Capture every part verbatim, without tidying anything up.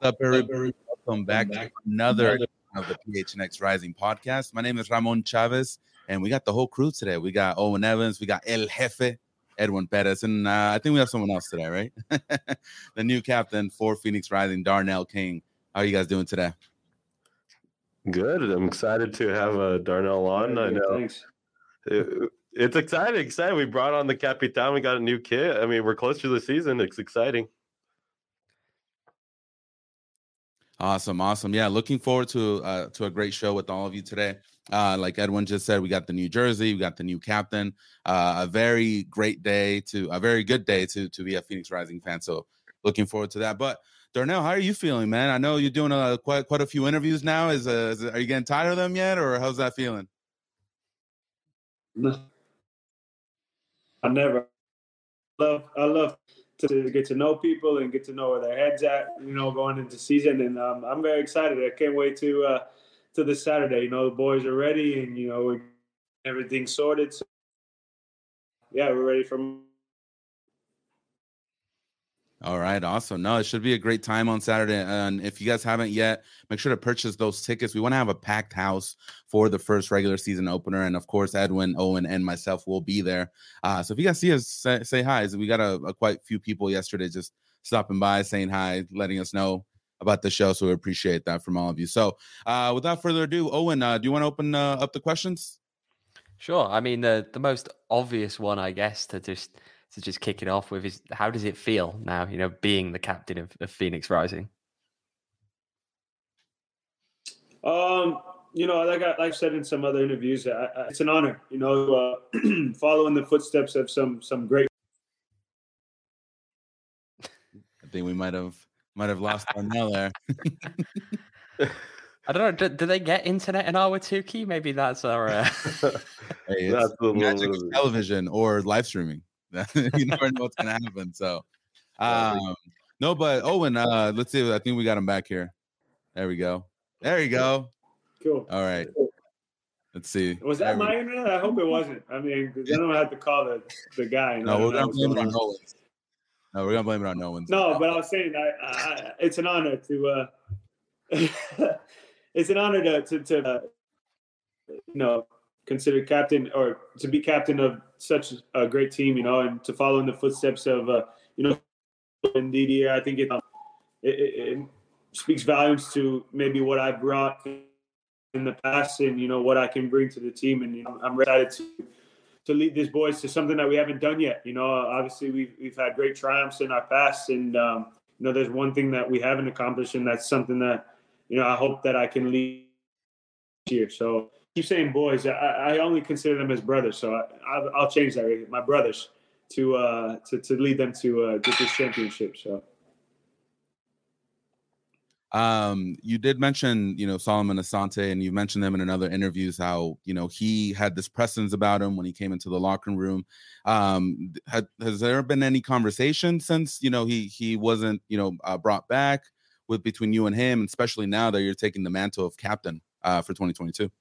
up, everybody? Welcome back to another of the P H N X Rising podcast. My name is Ramon Chavez, and we got the whole crew today. We got Owen Evans, we got El Jefe, Edwin Perez, and uh, I think we have someone else today, right? The new captain for Phoenix Rising, Darnell King. How are you guys doing today? Good. I'm excited to have uh, Darnell on. Yeah, I know. Thanks. It, it's exciting. Exciting. We brought on the Capitan. We got a new kit. I mean, we're close to the season. It's exciting. Awesome, awesome. Yeah, looking forward to uh, to a great show with all of you today. Uh, like Edwin just said, we got the new jersey, we got the new captain. Uh, a very great day to a very good day to to be a Phoenix Rising fan. So looking forward to that. But Darnell, how are you feeling, man? I know you're doing a, quite quite a few interviews now. Is, uh, is are you getting tired of them yet, or how's that feeling? No. I never love. I love to get to know people and get to know where their heads at. You know, going into season, and um, I'm very excited. I can't wait to uh, to this Saturday. You know, the boys are ready, and you know, everything's sorted. So, yeah, we're ready for. All right, awesome. No, it should be a great time on Saturday. And if you guys haven't yet, make sure to purchase those tickets. We want to have a packed house for the first regular season opener. And of course, Edwin, Owen, and myself will be there. Uh, so if you guys see us, say, say hi. We got a, a quite few people yesterday just stopping by, saying hi, letting us know about the show. So we appreciate that from all of you. So uh, without further ado, Owen, uh, do you want to open uh, up the questions? Sure. I mean, the the most obvious one, I guess, to just to just kick it off with is, how does it feel now, you know, being the captain of, of Phoenix Rising? Um, you know, like, I, like I've said in some other interviews, I, I, it's an honor, you know, uh, following the footsteps of some some great. I think we might have might have lost Darnell there. I don't know. Do, do they get internet in Ahwatukee? Maybe that's our. Uh... Hey, it's that's the magic of television or live streaming. You never know what's gonna happen. So, um, no, but Owen, uh, let's see. I think we got him back here. There we go. There you go. Cool. All right. Let's see. Was that my internet? I hope it wasn't. I mean, I don't have to call the the guy. No, we're gonna blame it on Nolan's. No, we're gonna blame it on Nolan's. No, but I was saying, I, I, it's an honor to. Uh, it's an honor to to, to uh, you know, considered captain or to be captain of such a great team, you know, and to follow in the footsteps of, uh, you know, and Didier. I think it, um, it, it, it speaks volumes to maybe what I've brought in the past and, you know, what I can bring to the team. And you know, I'm excited to to lead these boys to something that we haven't done yet. You know, obviously we've, we've had great triumphs in our past and, um, you know, there's one thing that we haven't accomplished, and that's something that, you know, I hope that I can lead here. So, keep saying boys. I, I only consider them as brothers, so I, I'll, I'll change that. My brothers to uh, to to lead them to uh, get this championship. So, um, you did mention, you know, Solomon Asante, and you mentioned them in another interviews how, you know, he had this presence about him when he came into the locker room. Um, had, has there been any conversation since, you know, he he wasn't, you know, uh, brought back with between you and him, especially now that you're taking the mantle of captain uh, for twenty twenty-two?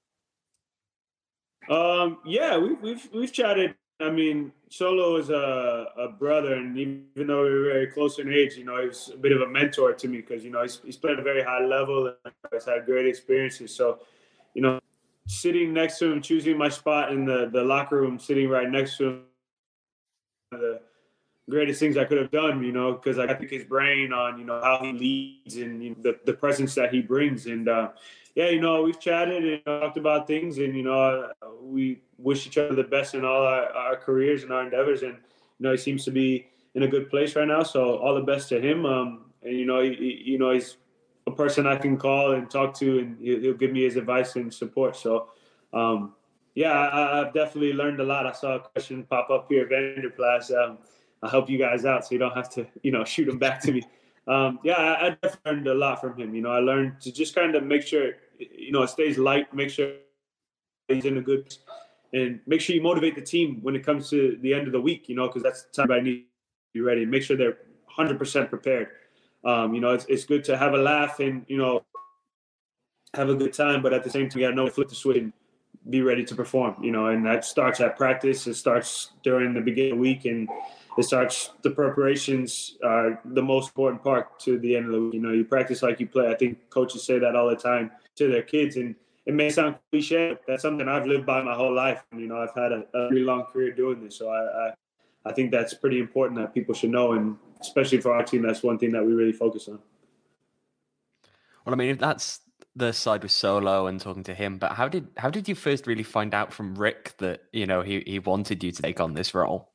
Um, yeah, we've, we've, we've chatted. I mean, Solo is a, a brother, and even though we were very close in age, you know, he's a bit of a mentor to me because, you know, he's, he's played at a very high level and has had great experiences. So, you know, sitting next to him, choosing my spot in the, the locker room, sitting right next to him, the greatest things I could have done, you know, because I pick his brain on, you know, how he leads and, you know, the, the presence that he brings. And, uh, yeah, you know, we've chatted and talked about things, and, you know, we wish each other the best in all our, our careers and our endeavors. And, you know, he seems to be in a good place right now. So all the best to him. Um, and, you know, he, he, you know, he's a person I can call and talk to, and he'll, he'll give me his advice and support. So, um, yeah, I, I've definitely learned a lot. I saw a question pop up here, Vanderplas. Um, I'll help you guys out so you don't have to, you know, shoot them back to me. Um, yeah, I, I definitely learned a lot from him. You know, I learned to just kind of make sure, you know, it stays light, make sure he's in a good, and make sure you motivate the team when it comes to the end of the week, you know, because that's the time I need to be ready. Make sure they're one hundred percent prepared. Um, you know, it's it's good to have a laugh and, you know, have a good time, but at the same time, you got to know to flip the switch and be ready to perform, you know, and that starts at practice. It starts during the beginning of the week, and it starts, the preparations are the most important part to the end of the week. You know, you practice like you play. I think coaches say that all the time to their kids, and it may sound cliche, but that's something I've lived by my whole life. And, you know, I've had a, a really long career doing this. So I, I, I think that's pretty important that people should know. And especially for our team, that's one thing that we really focus on. Well, I mean, if that's the side with Solo and talking to him, but how did how did you first really find out from Rick that, you know, he, he wanted you to take on this role?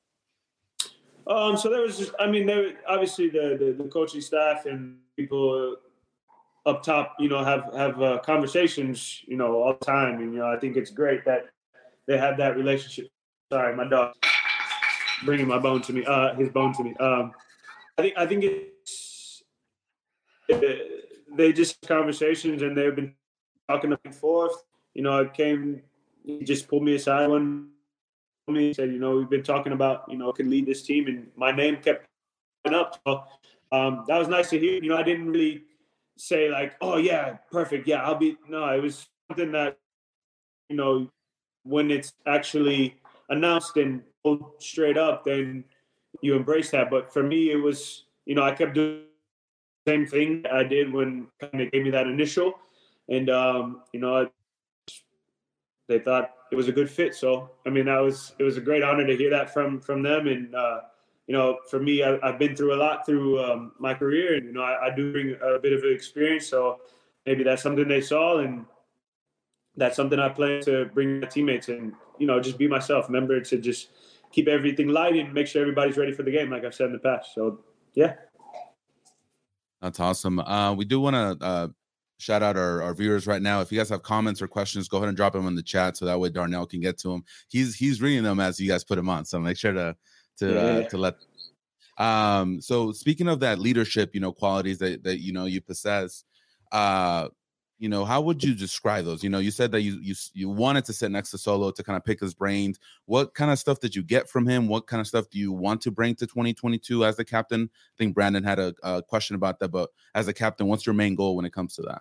Um, so there was just, I mean, there obviously the, the, the coaching staff and people up top, you know, have, have uh, conversations, you know, all the time. And, you know, I think it's great that they have that relationship. Sorry, my dog bringing my bone to me, uh, his bone to me. Um, I think, I think it's, it, they just conversations, and they've been talking back and forth. You know, it came, he just pulled me aside one me said, you know, we've been talking about, you know, can lead this team, and my name kept coming up. So um, that was nice to hear. You know, I didn't really say like, oh yeah, perfect. Yeah, I'll be, no, it was something that, you know, when it's actually announced and straight up, then you embrace that. But for me, it was, you know, I kept doing the same thing I did when kind of gave me that initial, and, um, you know, they thought it was a good fit. So, I mean, that was, it was a great honor to hear that from, from them. And, uh, you know, for me, I, I've been through a lot through um, my career, and, you know, I, I do bring a bit of experience. So maybe that's something they saw, and that's something I plan to bring my teammates, and, you know, just be myself. Remember to just keep everything light and make sure everybody's ready for the game, like I've said in the past. So, yeah. That's awesome. Uh, we do want to uh, shout out our, our viewers right now. If you guys have comments or questions, go ahead and drop them in the chat so that way Darnell can get to them. He's he's reading them as you guys put them on, so make sure to to yeah. uh, to let. Um. So speaking of that leadership, you know, qualities that that you know you possess, uh, you know, how would you describe those? You know, you said that you you you wanted to sit next to Solo to kind of pick his brains. What kind of stuff did you get from him? What kind of stuff do you want to bring to twenty twenty-two as the captain? I think Brandon had a, a question about that, but as a captain, what's your main goal when it comes to that?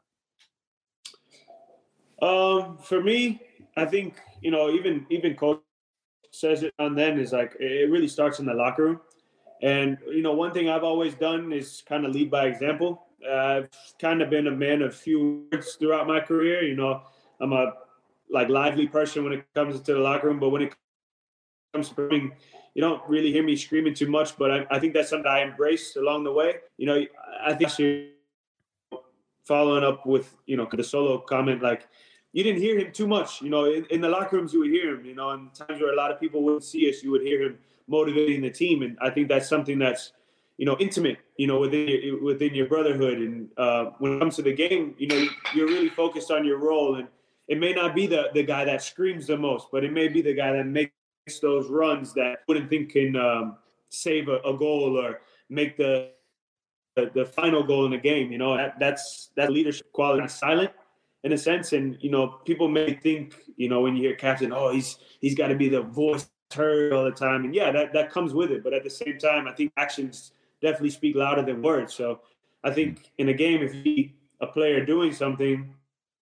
Um, for me, I think, you know, even even coach says it on then is like, it really starts in the locker room. And, you know, one thing I've always done is kind of lead by example. Uh, I've kind of been a man of few words throughout my career. You know, I'm a like lively person when it comes to the locker room, but when it comes to bringing, you don't really hear me screaming too much. But I, I think that's something I embraced along the way. You know, I think you're following up with, you know, the Solo comment, like, you didn't hear him too much. You know, in, in the locker rooms, you would hear him, you know, and times where a lot of people wouldn't see us, you would hear him motivating the team. And I think that's something that's, you know, intimate, you know, within your, within your brotherhood. And uh, when it comes to the game, you know, you're really focused on your role. And it may not be the, the guy that screams the most, but it may be the guy that makes those runs that wouldn't think can um, save a, a goal or make the, the the final goal in the game. You know, that, that's that leadership quality. Not silent in a sense. And, you know, people may think, you know, when you hear captain, oh, he's he's got to be the voice heard all the time. And yeah, that, that comes with it. But at the same time, I think actions definitely speak louder than words. So I think in a game, if you see a player doing something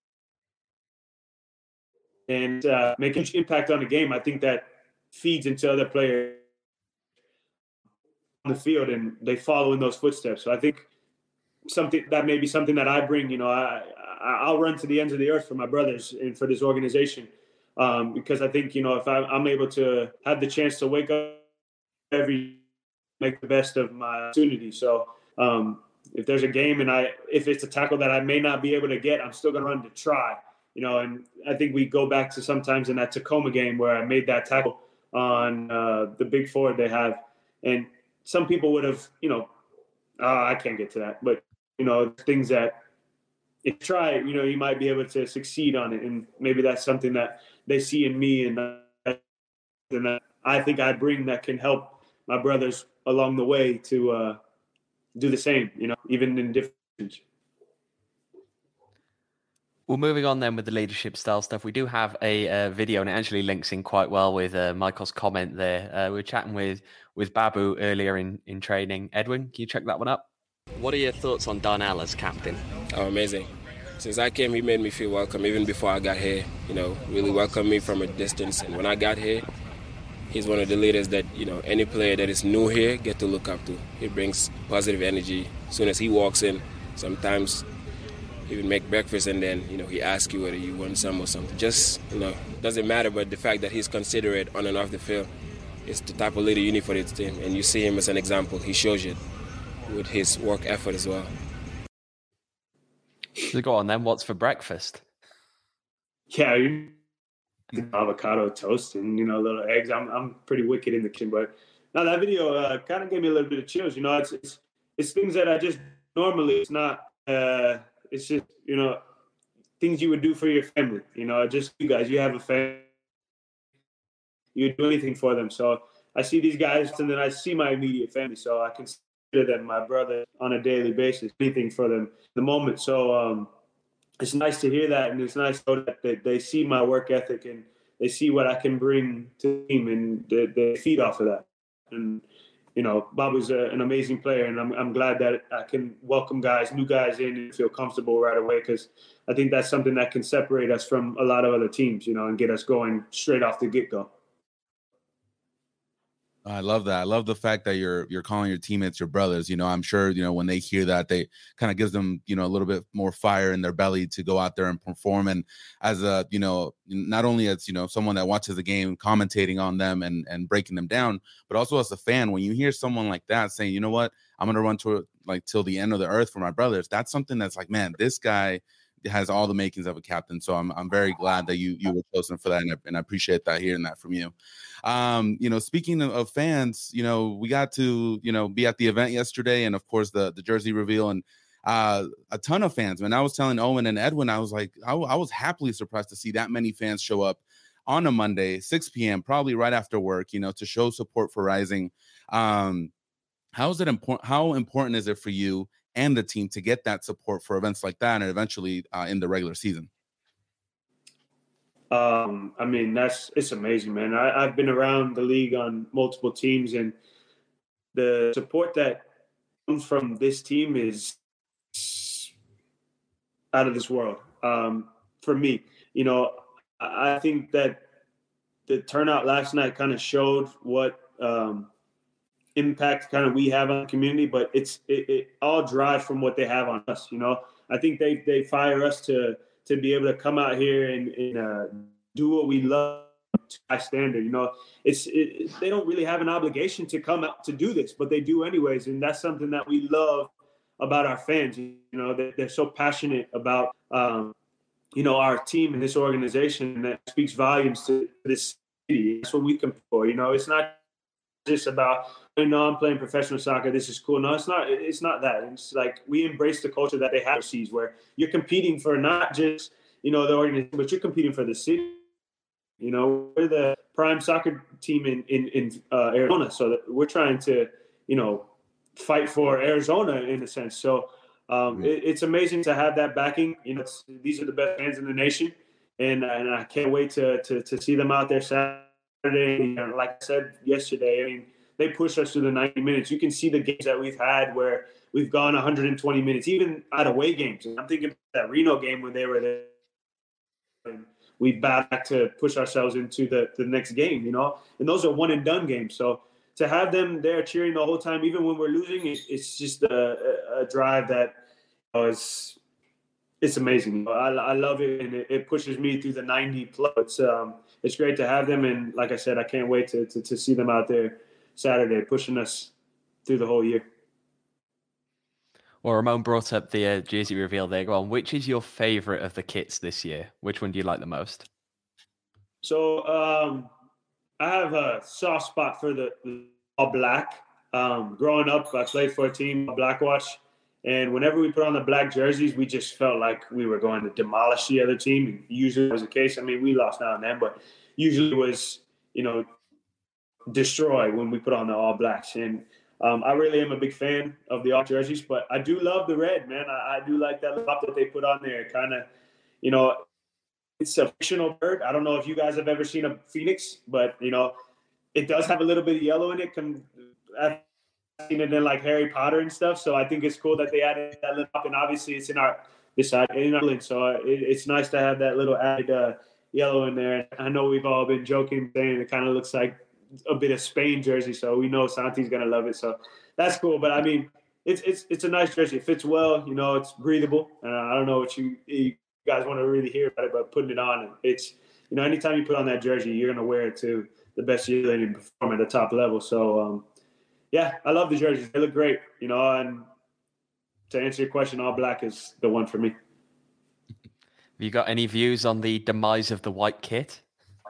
and uh, make a huge impact on the game, I think that feeds into other players on the field, and they follow in those footsteps. So I think something that may be something that I bring, you know, I, I'll run to the ends of the earth for my brothers and for this organization, um, because I think, you know, if I, I'm able to have the chance to wake up every, make the best of my opportunity. So um, if there's a game and I, if it's a tackle that I may not be able to get, I'm still going to run to try, you know. And I think we go back to sometimes in that Tacoma game where I made that tackle on uh, the big forward they have, and some people would have, you know, oh, I can't get to that, but you know, things that if you try, you know, you might be able to succeed on it. And maybe that's something that they see in me, and that I think I bring that can help my brothers along the way to uh, do the same, you know, even in different. Well, moving on then with the leadership style stuff, we do have a uh, video, and it actually links in quite well with uh, Michael's comment there. Uh, we were chatting with, with Babu earlier in, in training. Edwin, can you check that one up? What are your thoughts on Darnell as captain? Oh, amazing. Since I came, he made me feel welcome even before I got here. You know, really welcomed me from a distance. And when I got here, he's one of the leaders that, you know, any player that is new here get to look up to. He brings positive energy. As soon as he walks in, sometimes he would make breakfast and then, you know, he asks you whether you want some or something. Just, you know, doesn't matter, but the fact that he's considerate on and off the field is the type of leader you need for this team. And you see him as an example. He shows it with his work effort as well. So go on then, what's for breakfast? Yeah, you avocado toast and, you know, little eggs. I'm I'm pretty wicked in the kitchen, but now that video uh, kind of gave me a little bit of chills. You know, it's it's, it's things that I just normally, it's not, uh, it's just, you know, things you would do for your family. You know, just you guys, you have a family, you do anything for them. So I see these guys and then I see my immediate family. So I consider them my brother on a daily basis, anything for them at the moment. So, um, it's nice to hear that, and it's nice to know that they, they see my work ethic and they see what I can bring to the team, and they, they feed off of that. And, you know, Bob was a, an amazing player, and I'm, I'm glad that I can welcome guys, new guys in and feel comfortable right away, because I think that's something that can separate us from a lot of other teams, you know, and get us going straight off the get-go. I love that. I love the fact that you're you're calling your teammates your brothers. You know, I'm sure, you know, when they hear that, they kind of gives them, you know, a little bit more fire in their belly to go out there and perform. And as a, you know, not only as, you know, someone that watches the game, commentating on them and and breaking them down, but also as a fan, when you hear someone like that saying, you know what, I'm going to run to like till the end of the earth for my brothers. That's something that's like, man, this guy has all the makings of a captain. So I'm I'm very glad that you you were chosen for that, and I, and I appreciate that, hearing that from you. Um, you know, speaking of, of fans, you know, we got to, you know, be at the event yesterday, and of course the the jersey reveal, and uh, a ton of fans. When I was telling Owen and Edwin, I was like, I, I was happily surprised to see that many fans show up on a Monday, six p.m., probably right after work, you know, to show support for Rising. Um, how is it important? How important is it for you and the team to get that support for events like that, and eventually uh, in the regular season? Um, I mean, that's, it's amazing, man. I, I've been around the league on multiple teams, and the support that comes from this team is out of this world. Um, for me, you know, I think that the turnout last night kind of showed what um, impact kind of we have on the community, but it's it, it all drives from what they have on us. You know, I think they they fire us to to be able to come out here and, and uh, do what we love to high standard. You know, it's it, they don't really have an obligation to come out to do this, but they do anyways, and that's something that we love about our fans. You know, they, they're so passionate about um, you know, our team and this organization, that speaks volumes to this city. That's what we compete for. You know, it's not just about, you know, I'm playing professional soccer, this is cool. No, it's not. It's not that. It's like we embrace the culture that they have overseas, where you're competing for not just, you know, the organization, but you're competing for the city. You know, we're the prime soccer team in in, in uh, Arizona, so that we're trying to, you know, fight for Arizona in a sense. So um, mm-hmm. it, it's amazing to have that backing. You know, it's, these are the best fans in the nation, and and I can't wait to to to see them out there Saturday. You know, like I said yesterday, I mean, they push us to the ninety minutes. You can see the games that we've had where we've gone one hundred twenty minutes, even at away games. And I'm thinking about that Reno game when they were there. And we back to push ourselves into the, the next game, you know. And those are one and done games. So to have them there cheering the whole time, even when we're losing, it, it's just a, a drive that you know, is it's amazing. I, I love it, and it, it pushes me through the ninety plus. It's um, it's great to have them, and like I said, I can't wait to to, to see them out there Saturday, pushing us through the whole year. Well, Ramon brought up the uh, jersey reveal there. Go on. Which is your favorite of the kits this year? Which one do you like the most? So um, I have a soft spot for the, the all black. Um, growing up, I played for a team, Blackwatch, and whenever we put on the black jerseys, we just felt like we were going to demolish the other team. And usually it was the case. I mean, we lost now and then, but usually it was, you know, destroy when we put on the all blacks. And um, I really am a big fan of the all jerseys, but I do love the red, man. I, I do like that top that they put on there. Kind of, you know, it's a fictional bird. I don't know if you guys have ever seen a phoenix, but you know, it does have a little bit of yellow in it. I've seen it in like Harry Potter and stuff. So I think it's cool that they added that little up, and obviously it's in our this side in our link. So it, it's nice to have that little added uh, yellow in there. I know we've all been joking, saying it kind of looks like a bit of Spain jersey, so we know Santi's gonna love it. So that's cool. But I mean, it's it's it's a nice jersey. It fits well. You know, it's breathable. Uh, I don't know what you, you guys want to really hear about it, but putting it on, it's, you know, anytime you put on that jersey, you're gonna wear it to the best you can perform at the top level. So um, yeah, I love the jerseys. They look great. You know, and to answer your question, all black is the one for me. Have you got any views on the demise of the white kit?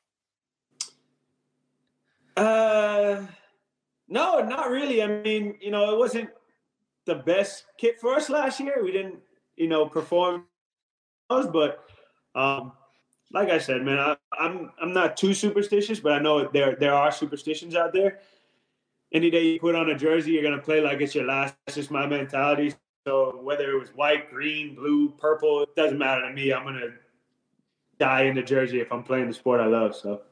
Uh, no, not really. I mean, you know, it wasn't the best kit for us last year. We didn't, you know, perform, but um, like I said, man, I, I'm I'm not too superstitious, but I know there there are superstitions out there. Any day you put on a jersey, you're gonna play like it's your last. That's just my mentality. So whether it was white, green, blue, purple, it doesn't matter to me. I'm going to die in the jersey if I'm playing the sport I love. So.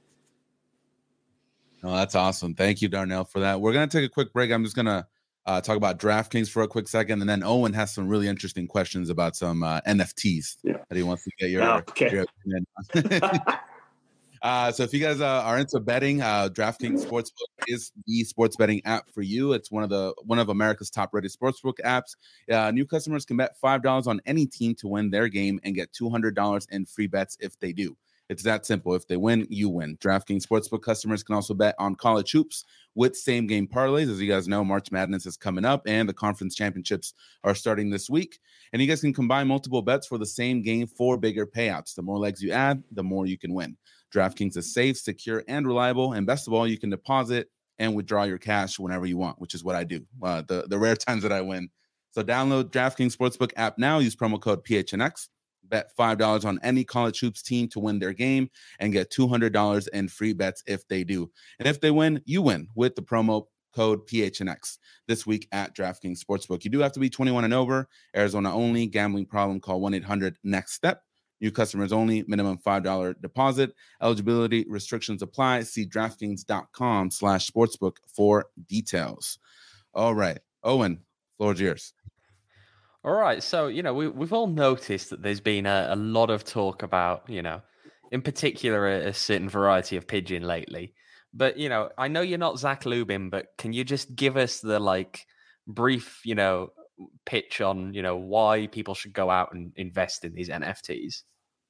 Oh, that's awesome. Thank you, Darnell, for that. We're going to take a quick break. I'm just going to uh, talk about DraftKings for a quick second. And then Owen has some really interesting questions about some uh, N F Ts yeah. that he wants to get your, oh, okay. your opinion on. Uh, so if you guys uh, are into betting, uh, DraftKings Sportsbook is the sports betting app for you. It's one of the one of America's top-rated sportsbook apps. Uh, new customers can bet five dollars on any team to win their game and get two hundred dollars in free bets if they do. It's that simple. If they win, you win. DraftKings Sportsbook customers can also bet on college hoops with same-game parlays. As you guys know, March Madness is coming up, and the conference championships are starting this week. And you guys can combine multiple bets for the same game for bigger payouts. The more legs you add, the more you can win. DraftKings is safe, secure, and reliable. And best of all, you can deposit and withdraw your cash whenever you want, which is what I do, uh, the, the rare times that I win. So download DraftKings Sportsbook app now. Use promo code P H N X. Bet five dollars on any college hoops team to win their game and get two hundred dollars in free bets if they do. And if they win, you win with the promo code P H N X this week at DraftKings Sportsbook. You do have to be twenty-one and over. Arizona only. Gambling problem, call one eight hundred next step. New customers only, minimum five dollars deposit. Eligibility restrictions apply. See DraftKings.com slash sportsbook for details. All right. Owen, floor's yours. All right. So, you know, we, we've all noticed that there's been a, a lot of talk about, you know, in particular, a, a certain variety of pigeon lately. But, you know, I know you're not Zach Lubin, but can you just give us the, like, brief, you know, pitch on, you know, why people should go out and invest in these N F Ts?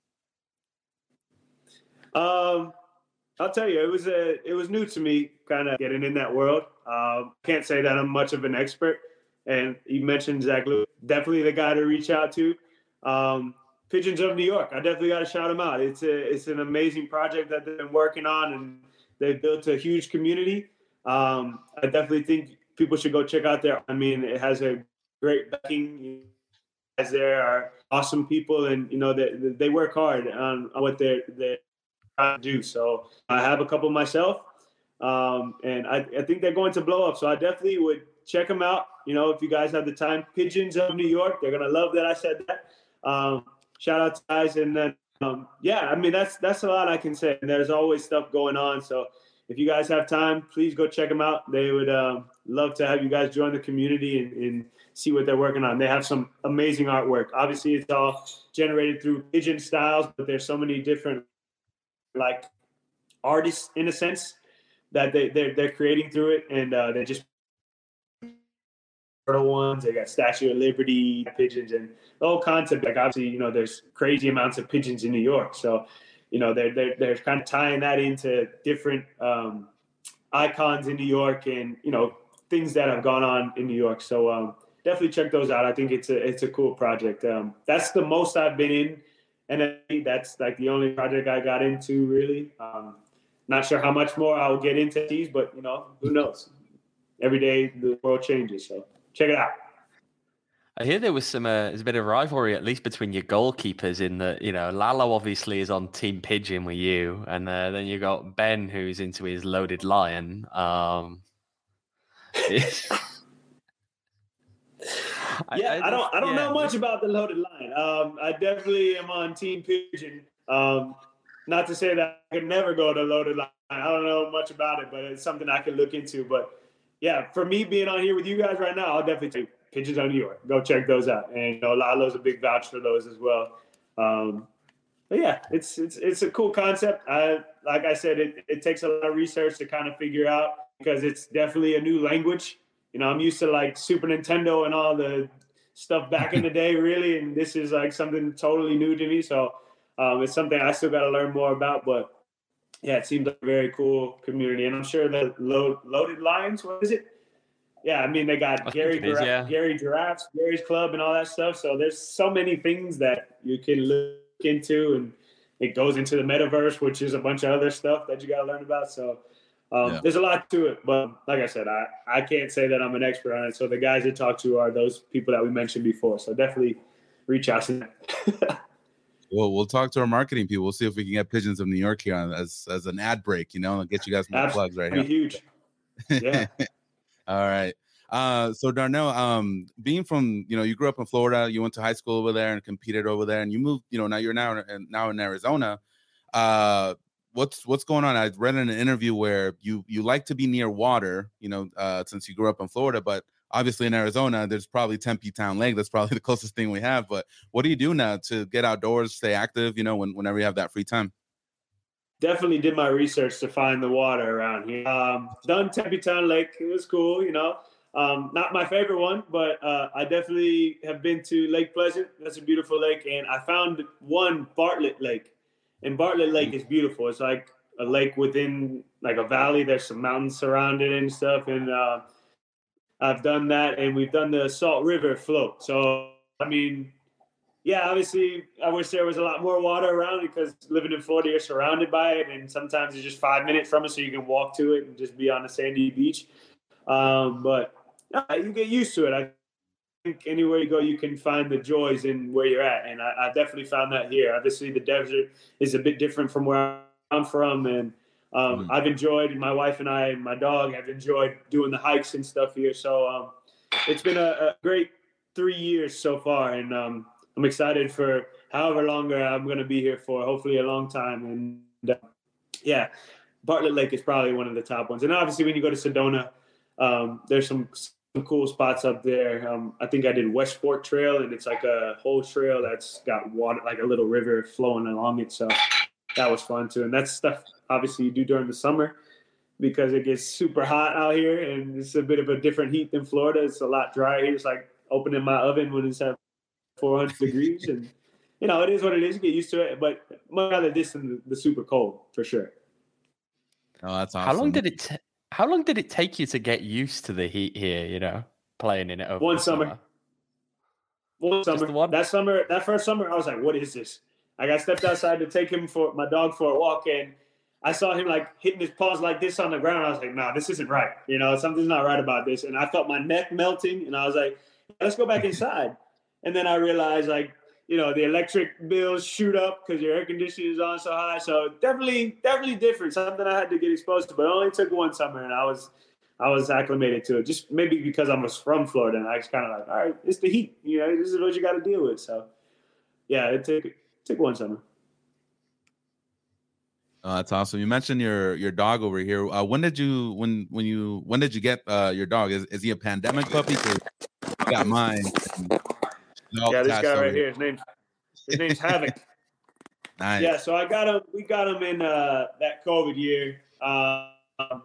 Um, I'll tell you, it was a, it was new to me, kind of getting in that world. Um, can't say that I'm much of an expert. And you mentioned Zach Lewis, definitely the guy to reach out to. Um, Pigeons of New York, I definitely got to shout him out. It's a, it's an amazing project that they've been working on, and they've built a huge community. Um, I definitely think people should go check out there. I mean, it has a great backing. As there are awesome people, and you know they they work hard on, on what they're they're trying to do. So I have a couple myself, um, and I, I think they're going to blow up. So I definitely would check them out. You know, if you guys have the time, Pigeons of New York, they're gonna love that I said that. Um, shout out to guys, and then um, yeah, I mean that's that's a lot I can say. And there's always stuff going on. So if you guys have time, please go check them out. They would um, love to have you guys join the community and, and see what they're working on. They have some amazing artwork. Obviously, it's all generated through pigeon styles, but there's so many different like artists in a sense that they they're, they're creating through it, and uh, they just ones. They got Statue of Liberty pigeons and the whole concept. Like obviously, you know, there's crazy amounts of pigeons in New York, so you know they're they're they're kind of tying that into different um, icons in New York, and you know things that have gone on in New York. So um, definitely check those out. I think it's a it's a cool project. Um, that's the most I've been in, and that's like the only project I got into really. Um, not sure how much more I'll get into these, but you know who knows. Every day the world changes, so. Check it out. I hear there was some, uh, there's a bit of rivalry, at least between your goalkeepers in that, you know, Lalo obviously is on Team Pigeon with you. And uh, then you got Ben, who's into his Loaded Lion. Um, yeah, I, I, I don't I don't yeah. know much about the Loaded Lion. Um, I definitely am on Team Pigeon. Um, not to say that I could never go to Loaded Lion. I don't know much about it, but it's something I can look into. But yeah, for me being on here with you guys right now, I'll definitely take Pigeons of New York. Go check those out. And you know, Lalo's a big vouch for those as well. Um, but yeah, it's it's it's a cool concept. I like I said, it, it takes a lot of research to kind of figure out because it's definitely a new language. You know, I'm used to like Super Nintendo and all the stuff back in the day, really, and this is like something totally new to me. So um, it's something I still got to learn more about. But yeah, it seems like a very cool community, and I'm sure the Lo- Loaded Lions, what is it? Yeah, I mean they got Gary is, yeah. Gary Giraffes, Gary's Club, and all that stuff. So there's so many things that you can look into, and it goes into the metaverse, which is a bunch of other stuff that you got to learn about. So um, yeah. There's a lot to it, but like I said, I, I can't say that I'm an expert on it. So the guys I talk to are those people that we mentioned before. So definitely reach out to them. Well, we'll talk to our marketing people. We'll see if we can get Pigeons of New York here on, as as an ad break. You know, and get you guys more Absolutely. plugs right here. Huge. Yeah. All right. Uh, so Darnell, um, being from, you know, you grew up in Florida, you went to high school over there and competed over there, and you moved, you know, now you're now now in Arizona. Uh, what's what's going on? I read in an interview where you you like to be near water, you know, uh, since you grew up in Florida, but obviously in Arizona, there's probably Tempe Town Lake. That's probably the closest thing we have. But what do you do now to get outdoors, stay active, you know, when, whenever you have that free time? Definitely did my research to find the water around here. Um, done Tempe Town Lake. It was cool, you know. Um, not my favorite one, but uh, I definitely have been to Lake Pleasant. That's a beautiful lake. And I found one, Bartlett Lake. And Bartlett Lake is beautiful. It's like a lake within like a valley. There's some mountains surrounded and stuff. And uh, I've done that. And we've done the Salt River float. So, I mean, yeah, obviously, I wish there was a lot more water around because living in Florida, you're surrounded by it. And sometimes it's just five minutes from it, so you can walk to it and just be on a sandy beach. Um, but no, you get used to it. I think anywhere you go, you can find the joys in where you're at. And I, I definitely found that here. Obviously, the desert is a bit different from where I'm from. And um, mm-hmm. I've enjoyed, my wife and I and my dog have enjoyed doing the hikes and stuff here. So um, it's been a, a great three years so far. And um, I'm excited for however longer I'm going to be here for, hopefully a long time. And uh, yeah, Bartlett Lake is probably one of the top ones. And obviously, when you go to Sedona, um, there's some some cool spots up there. Um, I think I did West Fork Trail, and it's like a whole trail that's got water, like a little river flowing along it. So that was fun too. And that's stuff obviously you do during the summer because it gets super hot out here, and it's a bit of a different heat than Florida. It's a lot drier here. It's like opening my oven when it's at four hundred degrees, and you know it is what it is. You get used to it, but much rather this than the, the super cold for sure. Oh, that's awesome. How long did it? T- How long did it take you to get used to the heat here, you know, playing in it over One summer. summer. One summer. One? That summer, that first summer, I was like, what is this? Like, I stepped outside to take him for my dog for a walk, and I saw him, like, hitting his paws like this on the ground. I was like, nah, this isn't right. You know, something's not right about this. And I felt my neck melting, and I was like, let's go back inside. And then I realized, like, you know, the electric bills shoot up because your air conditioning is on so high. So definitely, definitely different. Something I had to get exposed to, but it only took one summer, and I was, I was acclimated to it. Just maybe because I was from Florida, and I was kind of like, all right, it's the heat. You know, this is what you got to deal with. So, yeah, it took it took one summer. Oh, that's awesome. You mentioned your your dog over here. Uh, when did you when when you when did you get uh, your dog? Is is he a pandemic puppy? Because I got mine. Yeah, this guy right here. His name's his name's Havoc. Nice. Yeah, so I got him. We got him in uh, that COVID year. Um,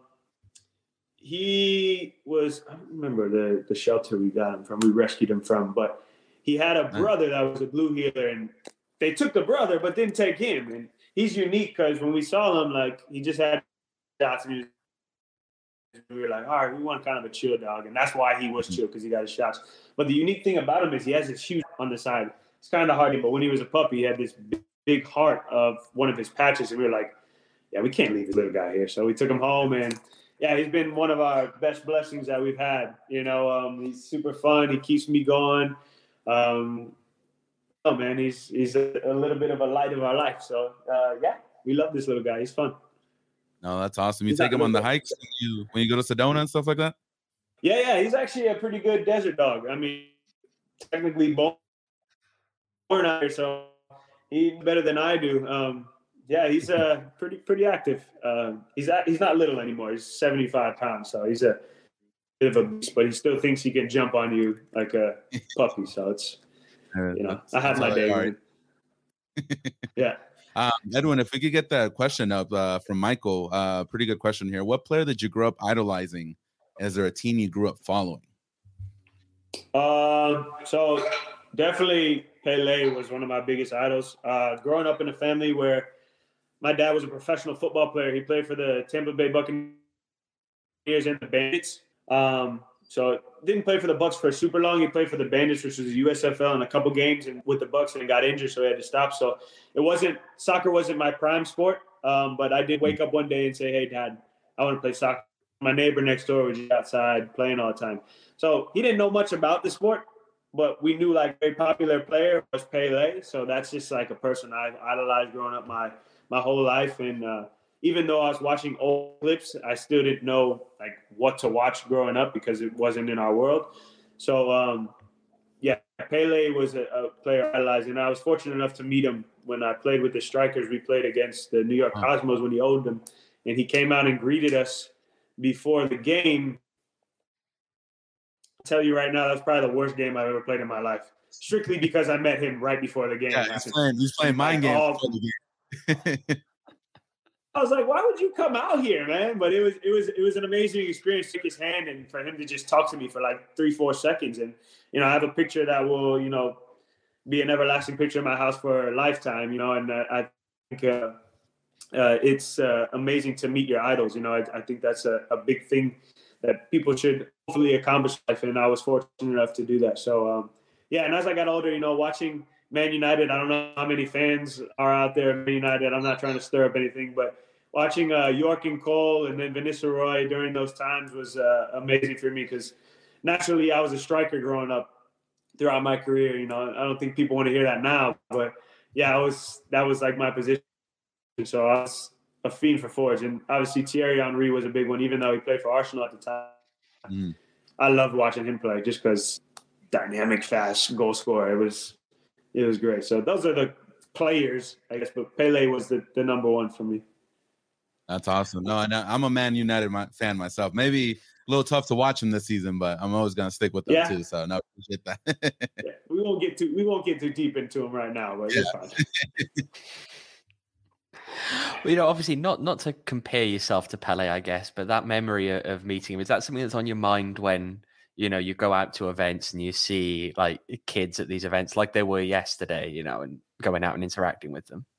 he was. I don't remember the the shelter we got him from. We rescued him from, but he had a brother that was a blue heeler, and they took the brother, but didn't take him. And he's unique because when we saw him, like he just had shots, and he was, we were like, all right, we want kind of a chill dog, and that's why he was chill because he got his shots. But the unique thing about him is he has this huge on the side. It's kind of hard, but when he was a puppy, he had this big, big heart of one of his patches, and we were like, yeah, we can't leave this little guy here. So we took him home, and yeah, he's been one of our best blessings that we've had. You know, um, he's super fun. He keeps me going. Um, oh man, he's he's a, a little bit of a light of our life. So uh, yeah, we love this little guy. He's fun. No, that's awesome. You he's take him on the hikes when you when you go to Sedona and stuff like that? Yeah, yeah, he's actually a pretty good desert dog. I mean, technically born out here, so he's better than I do. Um, yeah, he's uh, pretty pretty active. Uh, he's at, he's not little anymore. He's seventy-five pounds, so he's a bit of a beast, but he still thinks he can jump on you like a puppy. So it's, you know, I had my day. Right. Yeah. Um, Edwin, if we could get that question up uh, from Michael, uh, pretty good question here. What player did you grow up idolizing? Is there a team you grew up following? Um, so definitely Pele was one of my biggest idols. Uh, growing up in a family where my dad was a professional football player. He played for the Tampa Bay Buccaneers and the Bandits. Um, so didn't play for the Bucs for super long. He played for the Bandits, which was the U S F L, in a couple games and with the Bucs, and got injured, so he had to stop. So it wasn't soccer wasn't my prime sport. Um, but I did wake up one day and say, "Hey, Dad, I want to play soccer." My neighbor next door was just outside playing all the time. So he didn't know much about the sport, but we knew like a very popular player was Pele. So that's just like a person I idolized growing up my my whole life. And uh, even though I was watching old clips, I still didn't know like what to watch growing up because it wasn't in our world. So um, yeah, Pele was a, a player I idolized, and I was fortunate enough to meet him when I played with the Strikers. We played against the New York Cosmos when he owned them, and he came out and greeted us before the game. I'll tell you right now, that's probably the worst game I've ever played in my life. Strictly because I met him right before the game. Yeah, he's playing, he's playing mind games. Oh, I was like, why would you come out here, man? But it was it was it was an amazing experience to shake his hand and for him to just talk to me for like three, four seconds. And, you know, I have a picture that will, you know, be an everlasting picture in my house for a lifetime, you know, and uh, I think uh, uh, it's uh, amazing to meet your idols. You know, I, I think that's a, a big thing that people should hopefully accomplish in life, and I was fortunate enough to do that. So, um, yeah, and as I got older, you know, watching Man United, I don't know how many fans are out there at Man United. I'm not trying to stir up anything, but watching uh, York and Cole and then Van Nistelrooy during those times was uh, amazing for me because naturally I was a striker growing up throughout my career. You know, I don't think people want to hear that now, but yeah, I was that was like my position. So I was a fiend for forwards, and obviously Thierry Henry was a big one, even though he played for Arsenal at the time. Mm. I loved watching him play just because dynamic, fast goal scorer. It was it was great. So those are the players, I guess, but Pele was the, the number one for me. That's awesome. No, and I'm a Man United fan myself. Maybe a little tough to watch him this season, but I'm always gonna stick with them yeah. too. So no, appreciate that. yeah, we won't get too we won't get too deep into him right now, but yeah. It's fine. Well, you know, obviously not not to compare yourself to Pele, I guess, but that memory of meeting him, is that something that's on your mind when, you know, you go out to events and you see like kids at these events like they were yesterday, you know, and going out and interacting with them?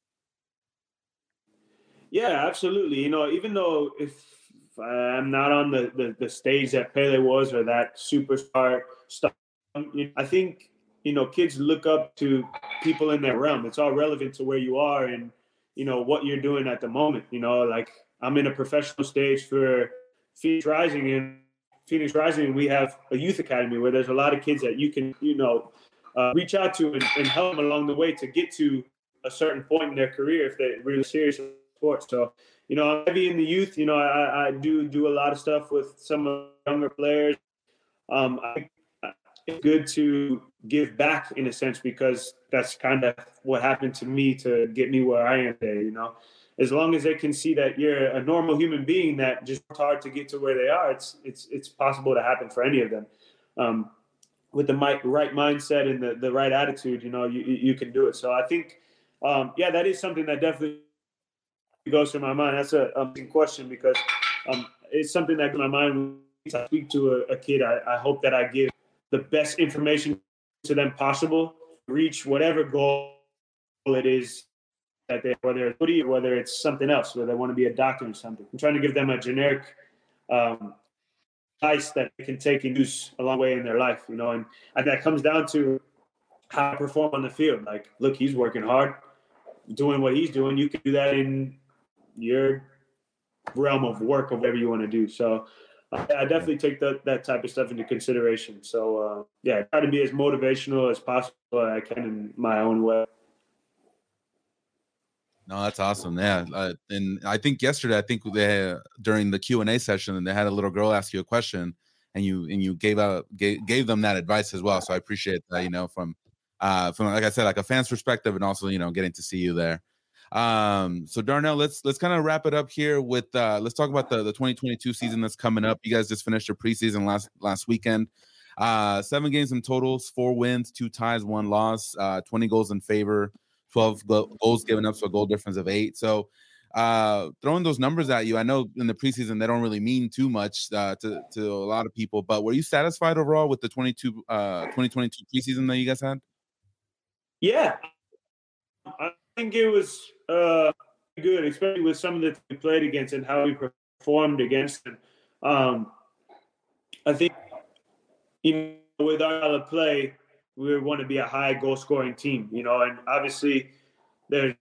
Yeah, absolutely. You know, even though if I'm not on the, the, the stage that Pele was or that superstar stuff, I think, you know, kids look up to people in their realm. It's all relevant to where you are and, you know, what you're doing at the moment. You know, like I'm in a professional stage for Phoenix Rising, and Phoenix Rising, we have a youth academy where there's a lot of kids that you can, you know, uh, reach out to and, and help them along the way to get to a certain point in their career if they're really serious about sports. So, you know, I'm heavy in the youth. You know, I, I do do a lot of stuff with some of the younger players. Um, I think it's good to give back in a sense because that's kind of what happened to me to get me where I am today, you know. As long as they can see that you're a normal human being that just worked hard to get to where they are, it's it's it's possible to happen for any of them. Um, with the right mindset and the, the right attitude, you know, you you can do it. So I think, um, yeah, that is something that definitely goes through my mind. That's a amazing question because um, it's something that goes through my mind when I speak to a, a kid. I, I hope that I give the best information to them possible, reach whatever goal it is that they, whether it's footy or whether it's something else, whether they want to be a doctor or something. I'm trying to give them a generic um, advice that they can take and use a long way in their life, you know, and, and that comes down to how I perform on the field. Like, look, he's working hard, doing what he's doing. You can do that in your realm of work or whatever you want to do. So uh, I definitely take that, that type of stuff into consideration. So, uh, yeah, I try to be as motivational as possible as I can in my own way. No, that's awesome. Yeah, uh, and I think yesterday, I think they had, during the Q and A session, they had a little girl ask you a question, and you and you gave out gave, gave them that advice as well. So I appreciate that. You know, from uh, from like I said, like a fan's perspective, and also you know getting to see you there. Um, so Darnell, let's let's kind of wrap it up here with uh, let's talk about the the twenty twenty-two season that's coming up. You guys just finished your preseason last last weekend. Uh, seven games in totals, four wins, two ties, one loss, uh, twenty goals in favor twelve go- goals given up, so a goal difference of eight. So uh, throwing those numbers at you, I know in the preseason they don't really mean too much uh, to, to a lot of people, but were you satisfied overall with the twenty-two, uh, twenty twenty-two preseason that you guys had? Yeah, I think it was uh, good, especially with some of the we played against and how we performed against them. Um, I think even with our style of play, we want to be a high goal scoring team, you know, and obviously there's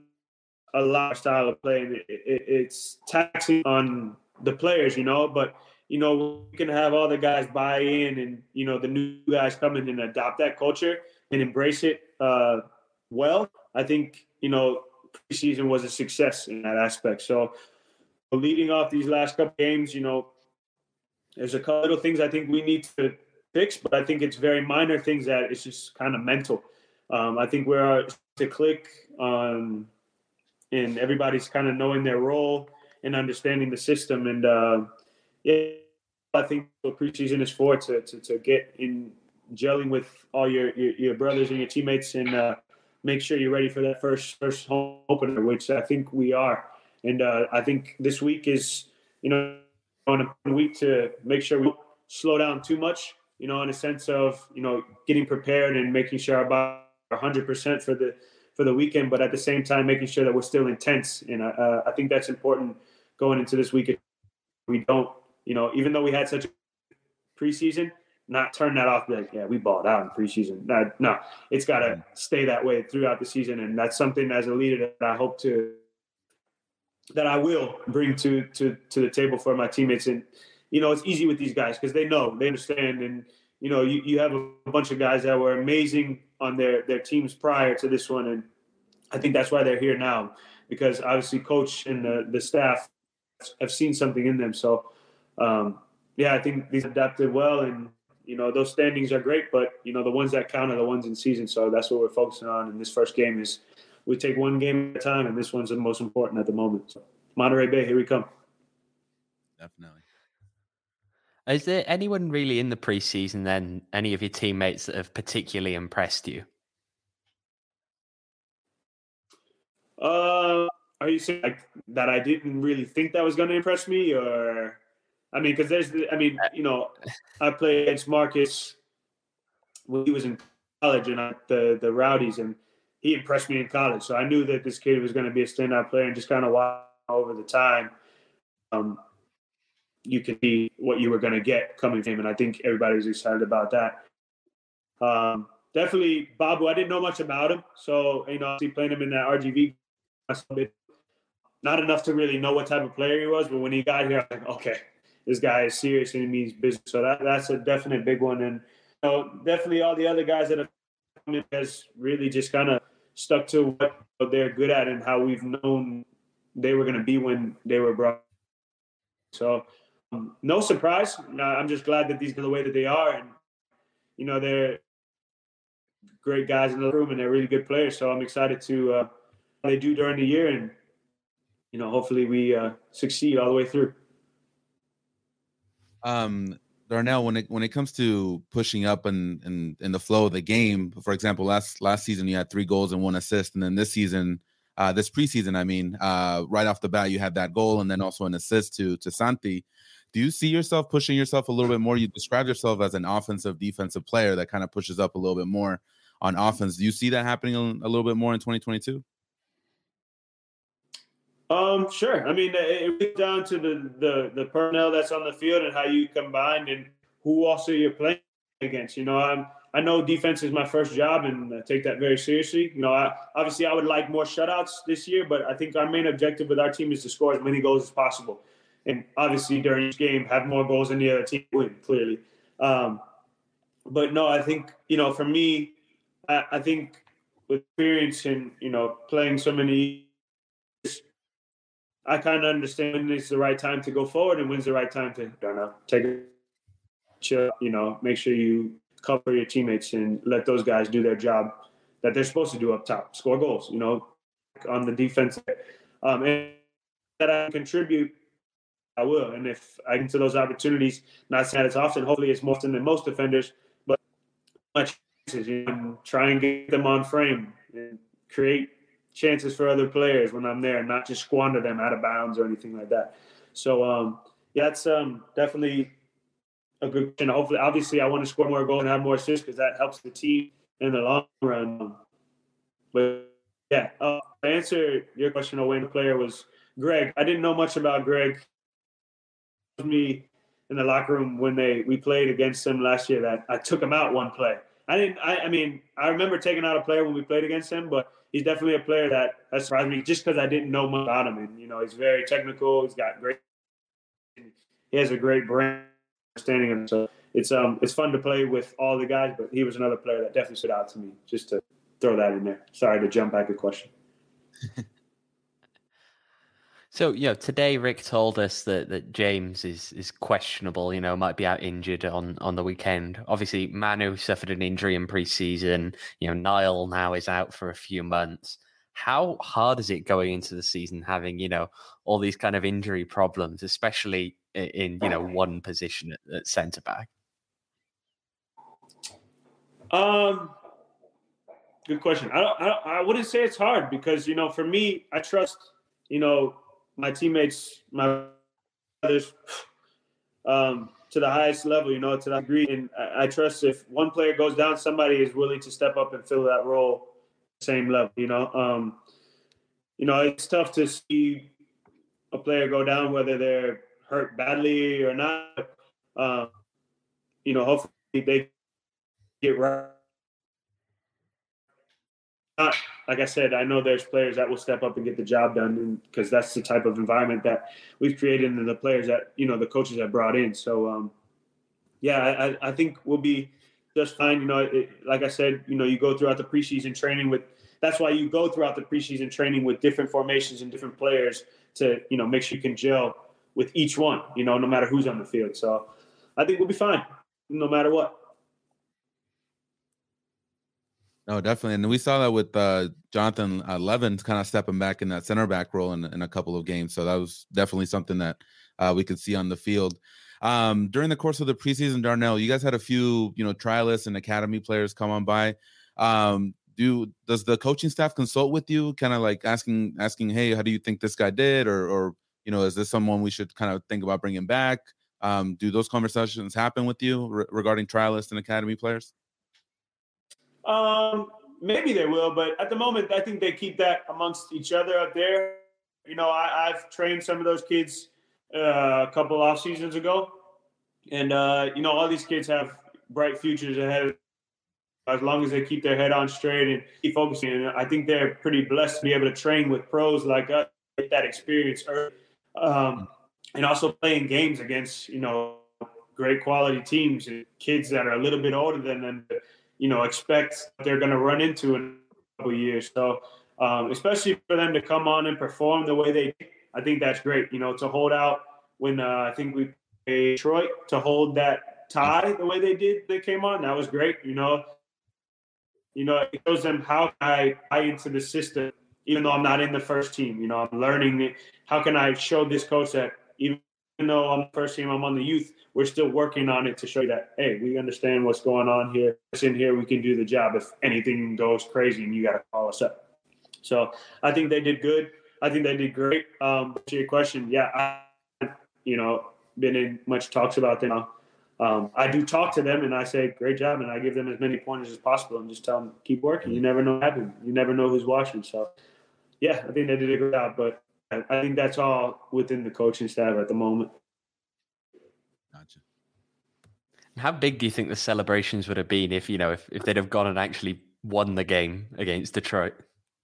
a lot of style of play, and it, it, it's taxing on the players, you know, but, you know, we can have all the guys buy in and, you know, the new guys come in and adopt that culture and embrace it uh, well. I think, you know, preseason was a success in that aspect. So leading off these last couple games, you know, there's a couple little things I think we need to fix, but I think it's very minor things that it's just kind of mental. Um, I think we're to click on, and everybody's kind of knowing their role and understanding the system. And uh, yeah, I think what preseason is for, to to, to get in gelling with all your, your, your brothers and your teammates, and uh, make sure you're ready for that first first home opener, which I think we are. And uh, I think this week is, you know, on a week to make sure we don't slow down too much, you know, in a sense of, you know, getting prepared and making sure our body are one hundred percent for the for the weekend, but at the same time making sure that we're still intense. And uh, I think that's important going into this weekend. We don't, you know, even though we had such a preseason, not turn that off. Like, yeah, we balled out in preseason. No, no, it's got to stay that way throughout the season, and that's something as a leader that I hope to, that I will bring to to to the table for my teammates. And you know, it's easy with these guys because they know, they understand, and you know, you, you have a bunch of guys that were amazing on their their teams prior to this one, and I think that's why they're here now, because obviously coach and the, the staff have seen something in them. So um, yeah, I think these adapted well, and you know, those standings are great, but you know, the ones that count are the ones in season. So that's what we're focusing on. And this first game is, we take one game at a time, and this one's the most important at the moment. So Monterey Bay, here we come. Definitely. Is there anyone really in the preseason then, any of your teammates that have particularly impressed you? Uh, are you saying like that I didn't really think that was going to impress me, or I mean, because there's, I mean, you know, I played against Marcus when he was in college, and I, the the Rowdies, and he impressed me in college. So I knew that this kid was going to be a standout player, and just kind of watch over the time, um, you could see what you were going to get coming from him, and I think everybody was excited about that. Um, definitely, Babu, I didn't know much about him, so you know, obviously playing him in that R G V, not enough to really know what type of player he was, but when he got here, I was like, okay, this guy is serious and he means business. So that that's a definite big one, and you know, definitely all the other guys that have come in has really just kind of stuck to what they're good at and how we've known they were going to be when they were brought. So um, no surprise. I'm just glad that these are the way that they are, and you know, they're great guys in the room and they're really good players. So I'm excited to uh, what they do during the year, and you know, hopefully we uh, succeed all the way through. Um, Darnell, when it when it comes to pushing up and in, in, in the flow of the game, for example, last last season you had three goals and one assist, and then this season, uh, this preseason, I mean, uh, right off the bat you had that goal and then also an assist to to Santi. Do you see yourself pushing yourself a little bit more? You described yourself as an offensive defensive player that kind of pushes up a little bit more on offense. Do you see that happening a, a little bit more in twenty twenty-two? Um, sure. I mean, it comes down to the, the, the personnel that's on the field and how you combine and who also you're playing against. You know, I'm, I know defense is my first job, and I take that very seriously. You know, I, obviously I would like more shutouts this year, but I think our main objective with our team is to score as many goals as possible. And obviously during each game, have more goals than the other team win, clearly. Um, but no, I think, you know, for me, I, I think with experience and, you know, playing so many years, I kind of understand when it's the right time to go forward and when's the right time to, I don't know, take a chill, you know, make sure you cover your teammates and let those guys do their job that they're supposed to do up top, score goals, you know, on the defense. Um, and that I contribute, I will. And if I get to those opportunities, not saying it's often, hopefully it's more often than most defenders, but much chances, you know, try and get them on frame and create chances for other players when I'm there and not just squander them out of bounds or anything like that. So, um, yeah, it's um, definitely a good question. Hopefully, obviously, I want to score more goals and have more assists because that helps the team in the long run. But, yeah, uh, to answer your question on when the player was Greg, I didn't know much about Greg. Me in the locker room when they we played against him last year that I took him out one play. I didn't. I, I mean, I remember taking out a player when we played against him, but he's definitely a player that has surprised me just because I didn't know much about him. And you know, he's very technical. He's got great. He has a great brain understanding of him. So it's um it's fun to play with all the guys. But he was another player that definitely stood out to me. Just to throw that in there. Sorry to jump back a question. So, you know, today Rick told us that, that James is is questionable, you know, might be out injured on, on the weekend. Obviously, Manu suffered an injury in preseason. You know, Niall now is out for a few months. How hard is it going into the season having, you know, all these kind of injury problems, especially in, in you know, one position at, at centre back? Um, good question. I, don't, I, don't, I wouldn't say it's hard because, you know, for me, I trust, you know, my teammates, my brothers, um, to the highest level, you know, to that degree. And I, I trust if one player goes down, somebody is willing to step up and fill that role at the same level, you know. Um, you know, it's tough to see a player go down, whether they're hurt badly or not. Um, you know, hopefully they get right. Not, like I said, I know there's players that will step up and get the job done because that's the type of environment that we've created and the players that, you know, the coaches have brought in. So, um, yeah, I, I think we'll be just fine. You know, it, like I said, you know, you go throughout the preseason training with – that's why you go throughout the preseason training with different formations and different players to, you know, make sure you can gel with each one, you know, no matter who's on the field. So I think we'll be fine no matter what. No, definitely. And we saw that with uh, Jonathan uh, Levin kind of stepping back in that center back role in, in a couple of games. So that was definitely something that uh, we could see on the field. Um, during the course of the preseason, Darnell, you guys had a few, you know, trialists and academy players come on by. Um, do does the coaching staff consult with you, kind of like asking, asking, hey, how do you think this guy did? Or, or you know, is this someone we should kind of think about bringing back? Um, do those conversations happen with you re- regarding trialists and academy players? Um, maybe they will, but at the moment, I think they keep that amongst each other up there. You know, I, I've trained some of those kids uh, a couple off seasons ago, and uh, you know, all these kids have bright futures ahead as long as they keep their head on straight and keep focusing. And I think they're pretty blessed to be able to train with pros like us, get that experience early, um, and also playing games against, you know, great quality teams and kids that are a little bit older than them. You know, expect they're going to run into in a couple of years. So, um, especially for them to come on and perform the way they did, I think that's great. You know, to hold out when uh, I think we played Detroit, to hold that tie the way they did, they came on, that was great. You know, you know, it shows them how can I buy into the system, even though I'm not in the first team. You know, I'm learning it. How can I show this coach that even though I'm the first team, I'm on the youth, we're still working on it to show you that, hey, we understand what's going on here. It's in here, we can do the job. If anything goes crazy and you got to call us up. So I think they did good. I think they did great. Um, to your question, yeah, I, you know, been in much talks about them. Um, I do talk to them and I say, great job. And I give them as many pointers as possible and just tell them, keep working. You never know what happens. You never know who's watching. So, yeah, I think they did a good job. But I think that's all within the coaching staff at the moment. Gotcha. How big do you think the celebrations would have been if, you know, if, if they'd have gone and actually won the game against Detroit?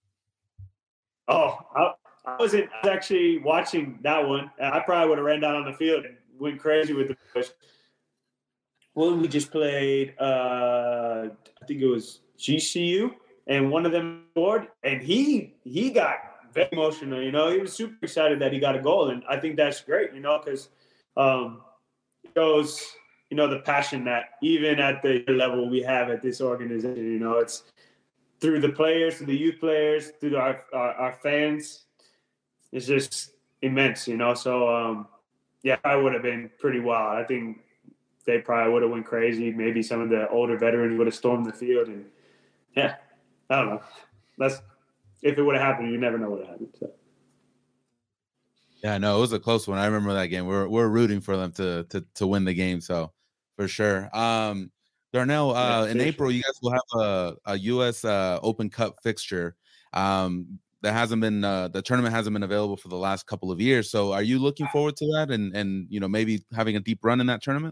Oh, I, I wasn't I was actually watching that one. I probably would have ran down on the field and went crazy with the push. Well, we just played, uh, I think it was G C U, and one of them scored, and he he got very emotional. You know, he was super excited that he got a goal, and I think that's great. You know, because um, it shows, you know, the passion that even at the level we have at this organization. You know, it's through the players, through the youth players, through our our, our fans. It's just immense. You know, so um, yeah, I would have been pretty wild. I think they probably would have went crazy. Maybe some of the older veterans would have stormed the field, and yeah, I don't know. That's if it would have happened, you never know what happened. So. Yeah, no, it was a close one. I remember that game. We're we're rooting for them to to to win the game. So for sure. Um, Darnell, uh, yeah, in April, you guys will have a, a U S uh, Open Cup fixture. Um, that hasn't been uh, the tournament hasn't been available for the last couple of years. So are you looking forward to that and and you know maybe having a deep run in that tournament?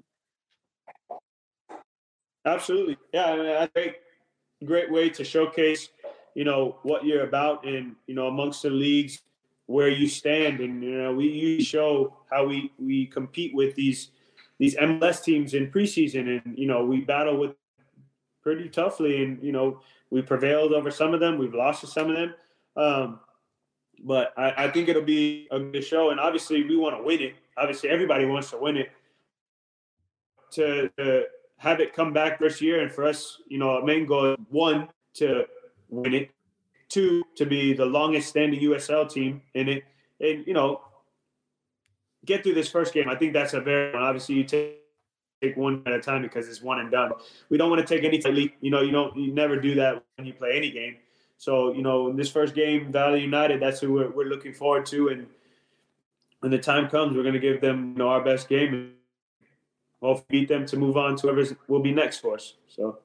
Absolutely. Yeah, I mean, I think great way to showcase, you know, what you're about and, you know, amongst the leagues where you stand. And, you know, we usually show how we, we compete with these these M L S teams in preseason. And, you know, we battle with pretty toughly. And, you know, we prevailed over some of them. We've lost to some of them. Um, but I, I think it'll be a good show. And obviously we want to win it. Obviously everybody wants to win it. To, to have it come back this year, and for us, you know, our main goal is one, to win it, two, to be the longest standing U S L team in it, and, you know, get through this first game. I think that's a very, obviously you take, take one at a time because it's one and done. We don't want to take any lead. You know, you don't, you never do that when you play any game. So, you know, in this first game, Valley United, that's who we're, we're looking forward to. And when the time comes, we're going to give them, you know, our best game and hopefully beat them to move on to whoever will be next for us. So.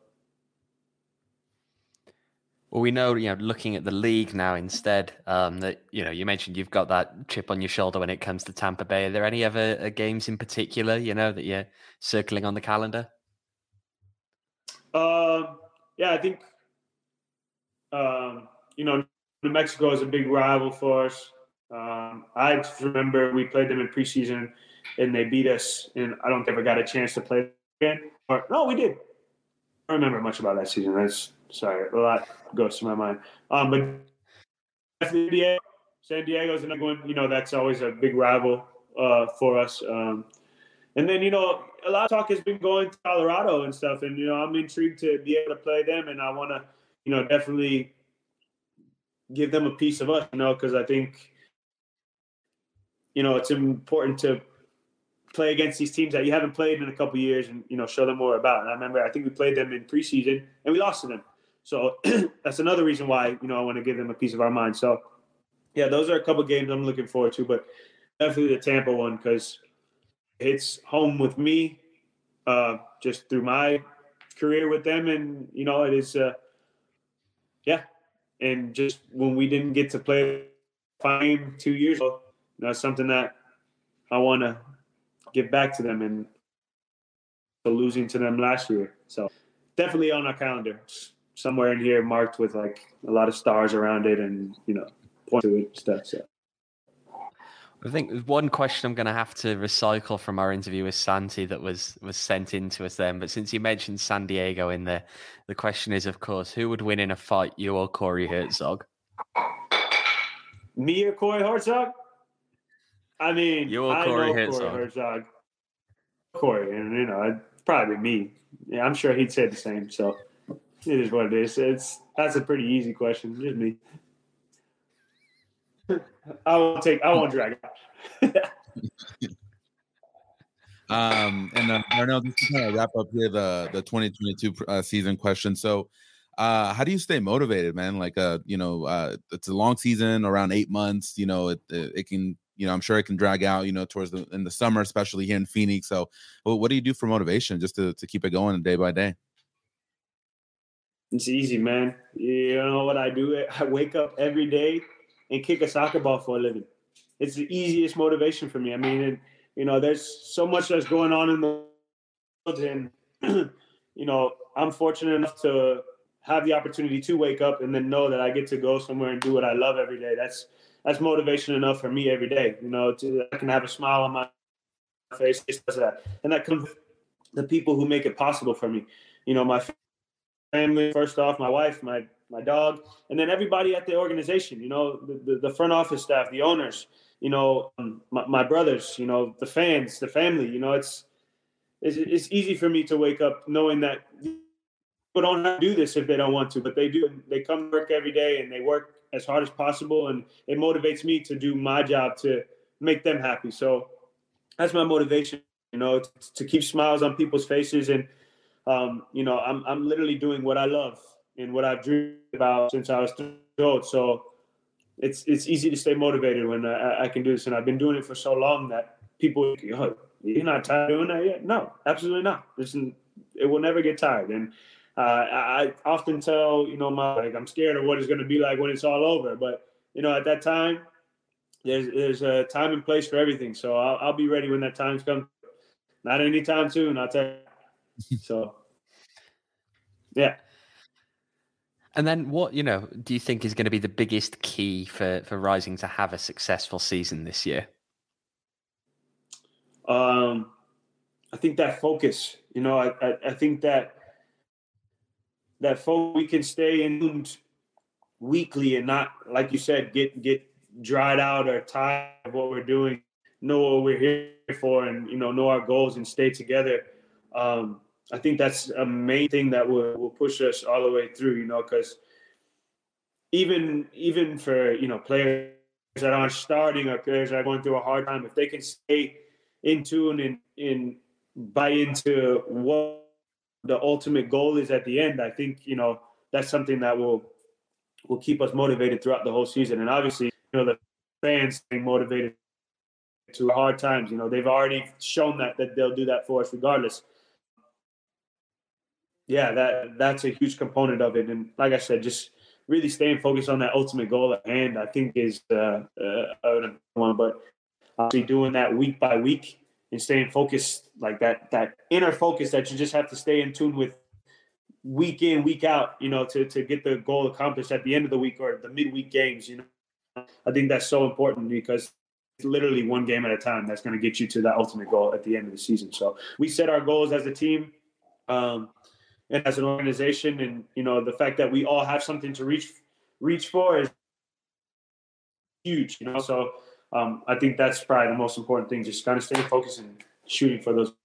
Well, we know, you know, looking at the league now instead, um, that, you know, you mentioned you've got that chip on your shoulder when it comes to Tampa Bay. Are there any other uh, games in particular, you know, that you're circling on the calendar? Um, yeah, I think, um, you know, New Mexico is a big rival for us. Um, I just remember we played them in preseason and they beat us, and I don't think I got a chance to play again. Or no, we did. I don't remember much about that season. That's sorry, a lot goes to my mind. Um, but definitely San Diego is another one. You know, that's always a big rival uh, for us. Um, and then, you know, a lot of talk has been going to Colorado and stuff, and, you know, I'm intrigued to be able to play them, and I want to, you know, definitely give them a piece of us, you know, because I think, you know, it's important to play against these teams that you haven't played in a couple of years and, you know, show them more about. And I remember, I think we played them in preseason and we lost to them. So that's another reason why, you know, I want to give them a piece of our mind. So, yeah, those are a couple of games I'm looking forward to, but definitely the Tampa one because it's home with me uh, just through my career with them. And, you know, it is, uh, yeah. And just when we didn't get to play fine two years ago, you know, something that I want to give back to them and losing to them last year. So definitely on our calendar, somewhere in here marked with like a lot of stars around it and, you know, point to it and stuff. So. I think one question I'm going to have to recycle from our interview with Santi that was, was sent in to us then. But since you mentioned San Diego in there, the question is, of course, who would win in a fight, you or Corey Herzog? Me or Corey Herzog? I mean, you or I Corey know Herzog. Corey Herzog. Corey, and, you know, it'd probably me. Yeah, I'm sure he'd say the same. So it is what it is. It's that's a pretty easy question. Just me. I won't take. I won't drag it. um, and uh, Darnell, just to kind of wrap up here the the twenty twenty-two uh, season question. So, uh, how do you stay motivated, man? Like, uh, you know, uh, it's a long season, around eight months. You know, it it, it can. You know, I'm sure it can drag out, you know, towards the in the summer, especially here in Phoenix. So, well, what do you do for motivation just to, to keep it going day by day? It's easy, man. You know what I do? I wake up every day and kick a soccer ball for a living. It's the easiest motivation for me. I mean, it, you know, there's so much that's going on in the world, and you know, I'm fortunate enough to have the opportunity to wake up and then know that I get to go somewhere and do what I love every day. That's That's motivation enough for me every day, you know, to, I can have a smile on my face, that. And that comes from the people who make it possible for me. You know, my family, first off, my wife, my, my dog, and then everybody at the organization, you know, the, the, the front office staff, the owners, you know, my, my brothers, you know, the fans, the family, you know, it's, it's, it's easy for me to wake up knowing that people don't have to do this if they don't want to, but they do. They come to work every day and they work as hard as possible, and it motivates me to do my job to make them happy. So that's my motivation, you know, to, to keep smiles on people's faces. And, um, you know, I'm I'm literally doing what I love and what I've dreamed about since I was three years old. So it's it's easy to stay motivated when I, I can do this, and I've been doing it for so long that people, oh, you're not tired of doing that yet? No, absolutely not. Listen, it will never get tired. And uh, I often tell, you know, my like I'm scared of what it's going to be like when it's all over. But you know, at that time, there's there's a time and place for everything. So I'll, I'll be ready when that time's come. Not anytime soon, I'll tell you. So, yeah. And then what, you know, do you think is going to be the biggest key for, for Rising to have a successful season this year? Um, I think that focus, you know, I, I, I think that that focus, we can stay in tuned weekly and not, like you said, get get dried out or tired of what we're doing, know what we're here for, and, you know, know our goals and stay together. Um, I think that's a main thing that will, will push us all the way through, you know, because even even for, you know, players that aren't starting or players that are going through a hard time, if they can stay in tune and, and buy into what the ultimate goal is at the end, I think, you know, that's something that will will keep us motivated throughout the whole season. And obviously, you know, the fans staying motivated to hard times, you know, they've already shown that that they'll do that for us regardless. Yeah, that that's a huge component of it. And like I said, just really staying focused on that ultimate goal at hand, I think is uh, uh, one. But obviously doing that week by week and staying focused, like that that inner focus that you just have to stay in tune with week in, week out, you know, to, to get the goal accomplished at the end of the week or the midweek games, you know. I think that's so important because it's literally one game at a time that's going to get you to that ultimate goal at the end of the season. So we set our goals as a team um, and as an organization, and, you know, the fact that we all have something to reach reach for is huge, you know. So um, I think that's probably the most important thing, just kind of staying focused and shooting for those.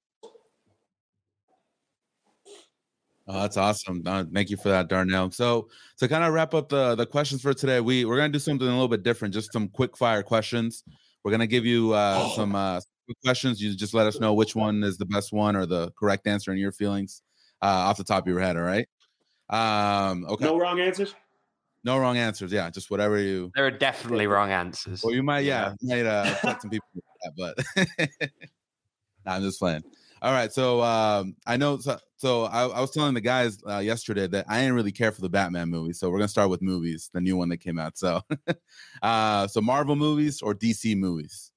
Oh, that's awesome. Uh, thank you for that, Darnell. So to kind of wrap up the, the questions for today, we, we're going to do something a little bit different, just some quick fire questions. We're going to give you uh, some uh, quick questions. You just let us know which one is the best one or the correct answer in your feelings uh, off the top of your head, all right? Um, okay. No wrong answers? No wrong answers, yeah. Just whatever you... There are definitely wrong answers. Well, you might, yeah, you might uh, upset some people with that, but... nah, I'm just playing. All right, so um, I know. So, so I, I was telling the guys uh, yesterday that I didn't really care for the Batman movie. So we're gonna start with movies, the new one that came out. So, uh, so Marvel movies or D C movies?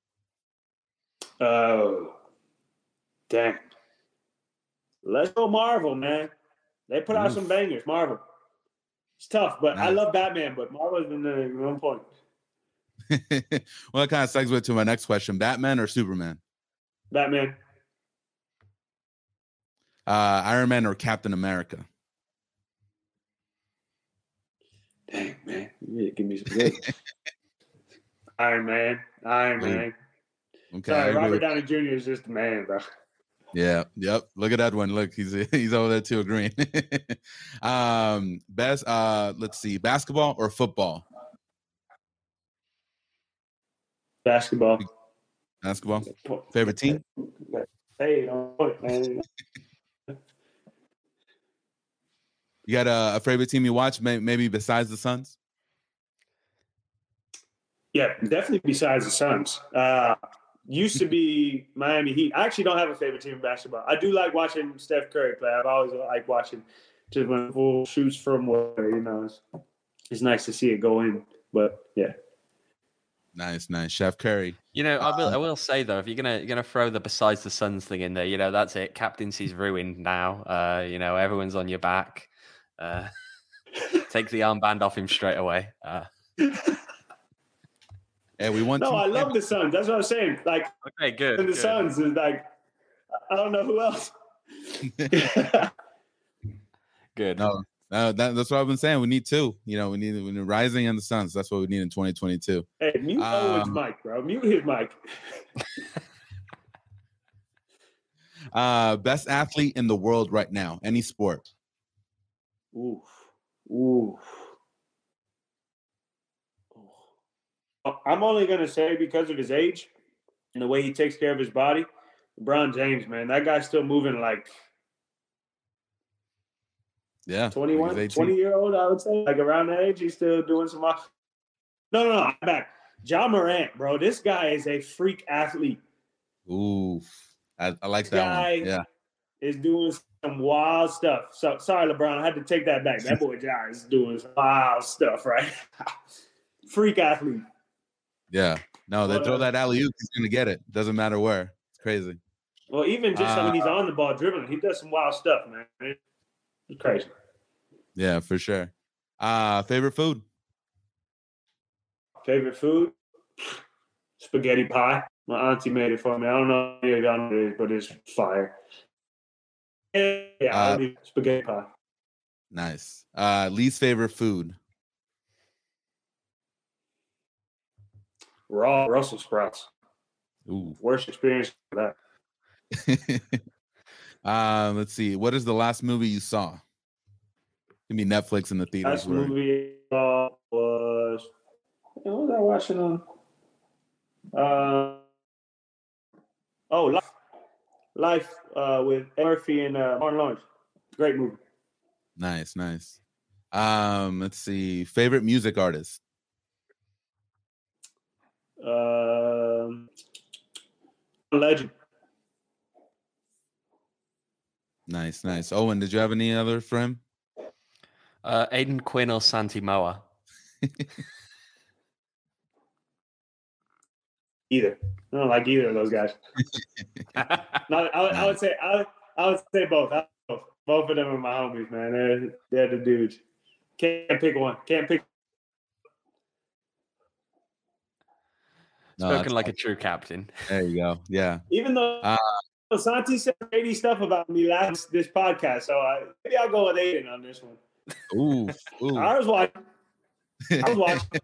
Oh, dang! Let's go Marvel, man. They put out Oof. some bangers. Marvel. It's tough, but nice. I love Batman. But Marvel's been the one point. Well, it kind of segues to my next question: Batman or Superman? Batman. Uh, Iron Man or Captain America? Dang, man. You really give me some good. Iron Man. Iron Man. Okay. Sorry, Robert Downey Junior is just the man, bro. Yeah. Yep. Look at that one. Look, he's he's over there too, agreeing. um, best. Uh, let's see, basketball or football? Basketball. Basketball. Favorite team? Hey, don't put, man. You got a, a favorite team you watch, may, maybe besides the Suns? Yeah, definitely besides the Suns. Uh, used to be Miami Heat. I actually don't have a favorite team in basketball. I do like watching Steph Curry play. I've always liked watching just when full shoots from where, you know, it's, it's nice to see it go in. But, yeah. Nice, nice. Chef Curry. You know, I will I will say, though, if you're going to you're gonna throw the besides the Suns thing in there, you know, that's it. Captaincy's ruined now. Uh, you know, everyone's on your back. Uh, take the armband off him straight away. Uh, yeah, we want. No, to- I love the Suns. That's what I'm saying. Like, okay, good. And the good. Suns is like, I don't know who else. Good. No, no that, that's what I've been saying. We need two. You know, we need, we need Rising and the Suns. That's what we need in twenty twenty-two. Hey, mute um, Owen's mic, bro. Mute his mic. uh, best athlete in the world right now, any sport. Ooh, ooh. I'm only gonna say because of his age and the way he takes care of his body, LeBron James, man, that guy's still moving like yeah, twenty-one, twenty year old, I would say, like around that age, he's still doing some No, no, no. I'm back. Ja Morant, bro. This guy is a freak athlete. Ooh, I, I like This that guy one. Yeah. is doing some wild stuff. So sorry, LeBron. I had to take that back. That boy Ja is doing some wild stuff, right? Freak athlete. Yeah. No, they But, throw uh, that alley oop, he's gonna get it. Doesn't matter where. It's crazy. Well, even just Uh, when he's on the ball dribbling, he does some wild stuff, man. It's crazy. Yeah, for sure. Uh, favorite food? Favorite food? Spaghetti pie. My auntie made it for me. I don't know if y'all know what it is, but it's fire. Yeah, Uh, I'll do spaghetti pie. Nice. Uh, least favorite food? Raw Brussels sprouts. Ooh. Worst experience for that. um, let's see. What is the last movie you saw? Give me Netflix in the theaters. Last movie I saw was what was I watching on? Uh, oh, Life, Life uh, with Eddie Murphy and uh, Martin Lawrence. Great movie. Nice, nice. Um, let's see. Favorite music artist? Um, Legend. Nice, nice. Owen, did you have any other for him? Uh, Aiden Quinn or Santi Moa? Either. I don't like either of those guys. No, I, I would say I would, I would say both. I, both. Both of them are my homies, man. They're they're the dudes. Can't pick one. Can't pick. No, Spoken that's like fine. a true captain. There you go. Yeah. Even though Uh, Santi said shady stuff about me last this podcast, so I, maybe I'll go with Aiden on this one. Ooh, ooh. I was watching. I was watching.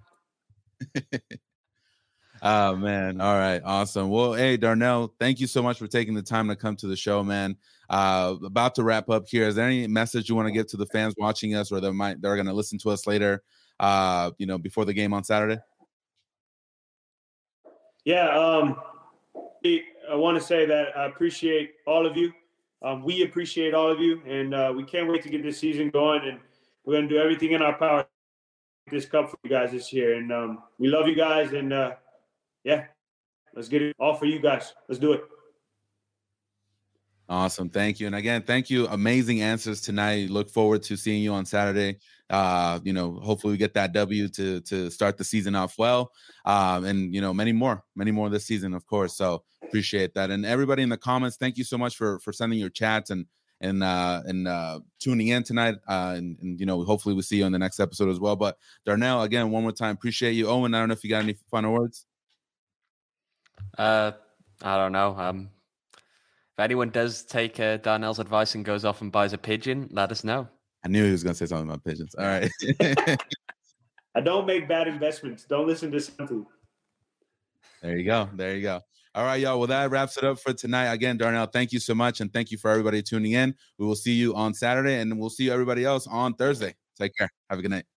Oh man. All right. Awesome. Well, hey, Darnell, thank you so much for taking the time to come to the show, man. Uh, about to wrap up here. Is there any message you want to give to the fans watching us or that might they're gonna listen to us later, uh, you know, before the game on Saturday? Yeah, um, I want to say that I appreciate all of you. Um, we appreciate all of you, and uh, we can't wait to get this season going. And we're going to do everything in our power to get this cup for you guys this year. And um, we love you guys. And uh, yeah, let's get it all for you guys. Let's do it. Awesome. Thank you. And again, thank you. Amazing answers tonight. Look forward to seeing you on Saturday. Uh, you know, hopefully we get that W to to start the season off well. Um, and you know, many more, many more this season, of course. So appreciate that. And everybody in the comments, thank you so much for for sending your chats and and uh and uh tuning in tonight. Uh and, and you know, hopefully we see you on the next episode as well. But Darnell, again, one more time, appreciate you. Owen, I don't know if you got any final words. Uh, I don't know. Um, if anyone does take uh, Darnell's advice and goes off and buys a pigeon, let us know. I knew he was gonna say something about pigeons. All right. I don't make bad investments. Don't listen to Santi. There you go. There you go. All right, y'all. Well, that wraps it up for tonight. Again, Darnell, thank you so much. And thank you for everybody tuning in. We will see you on Saturday and we'll see you everybody else on Thursday. Take care. Have a good night.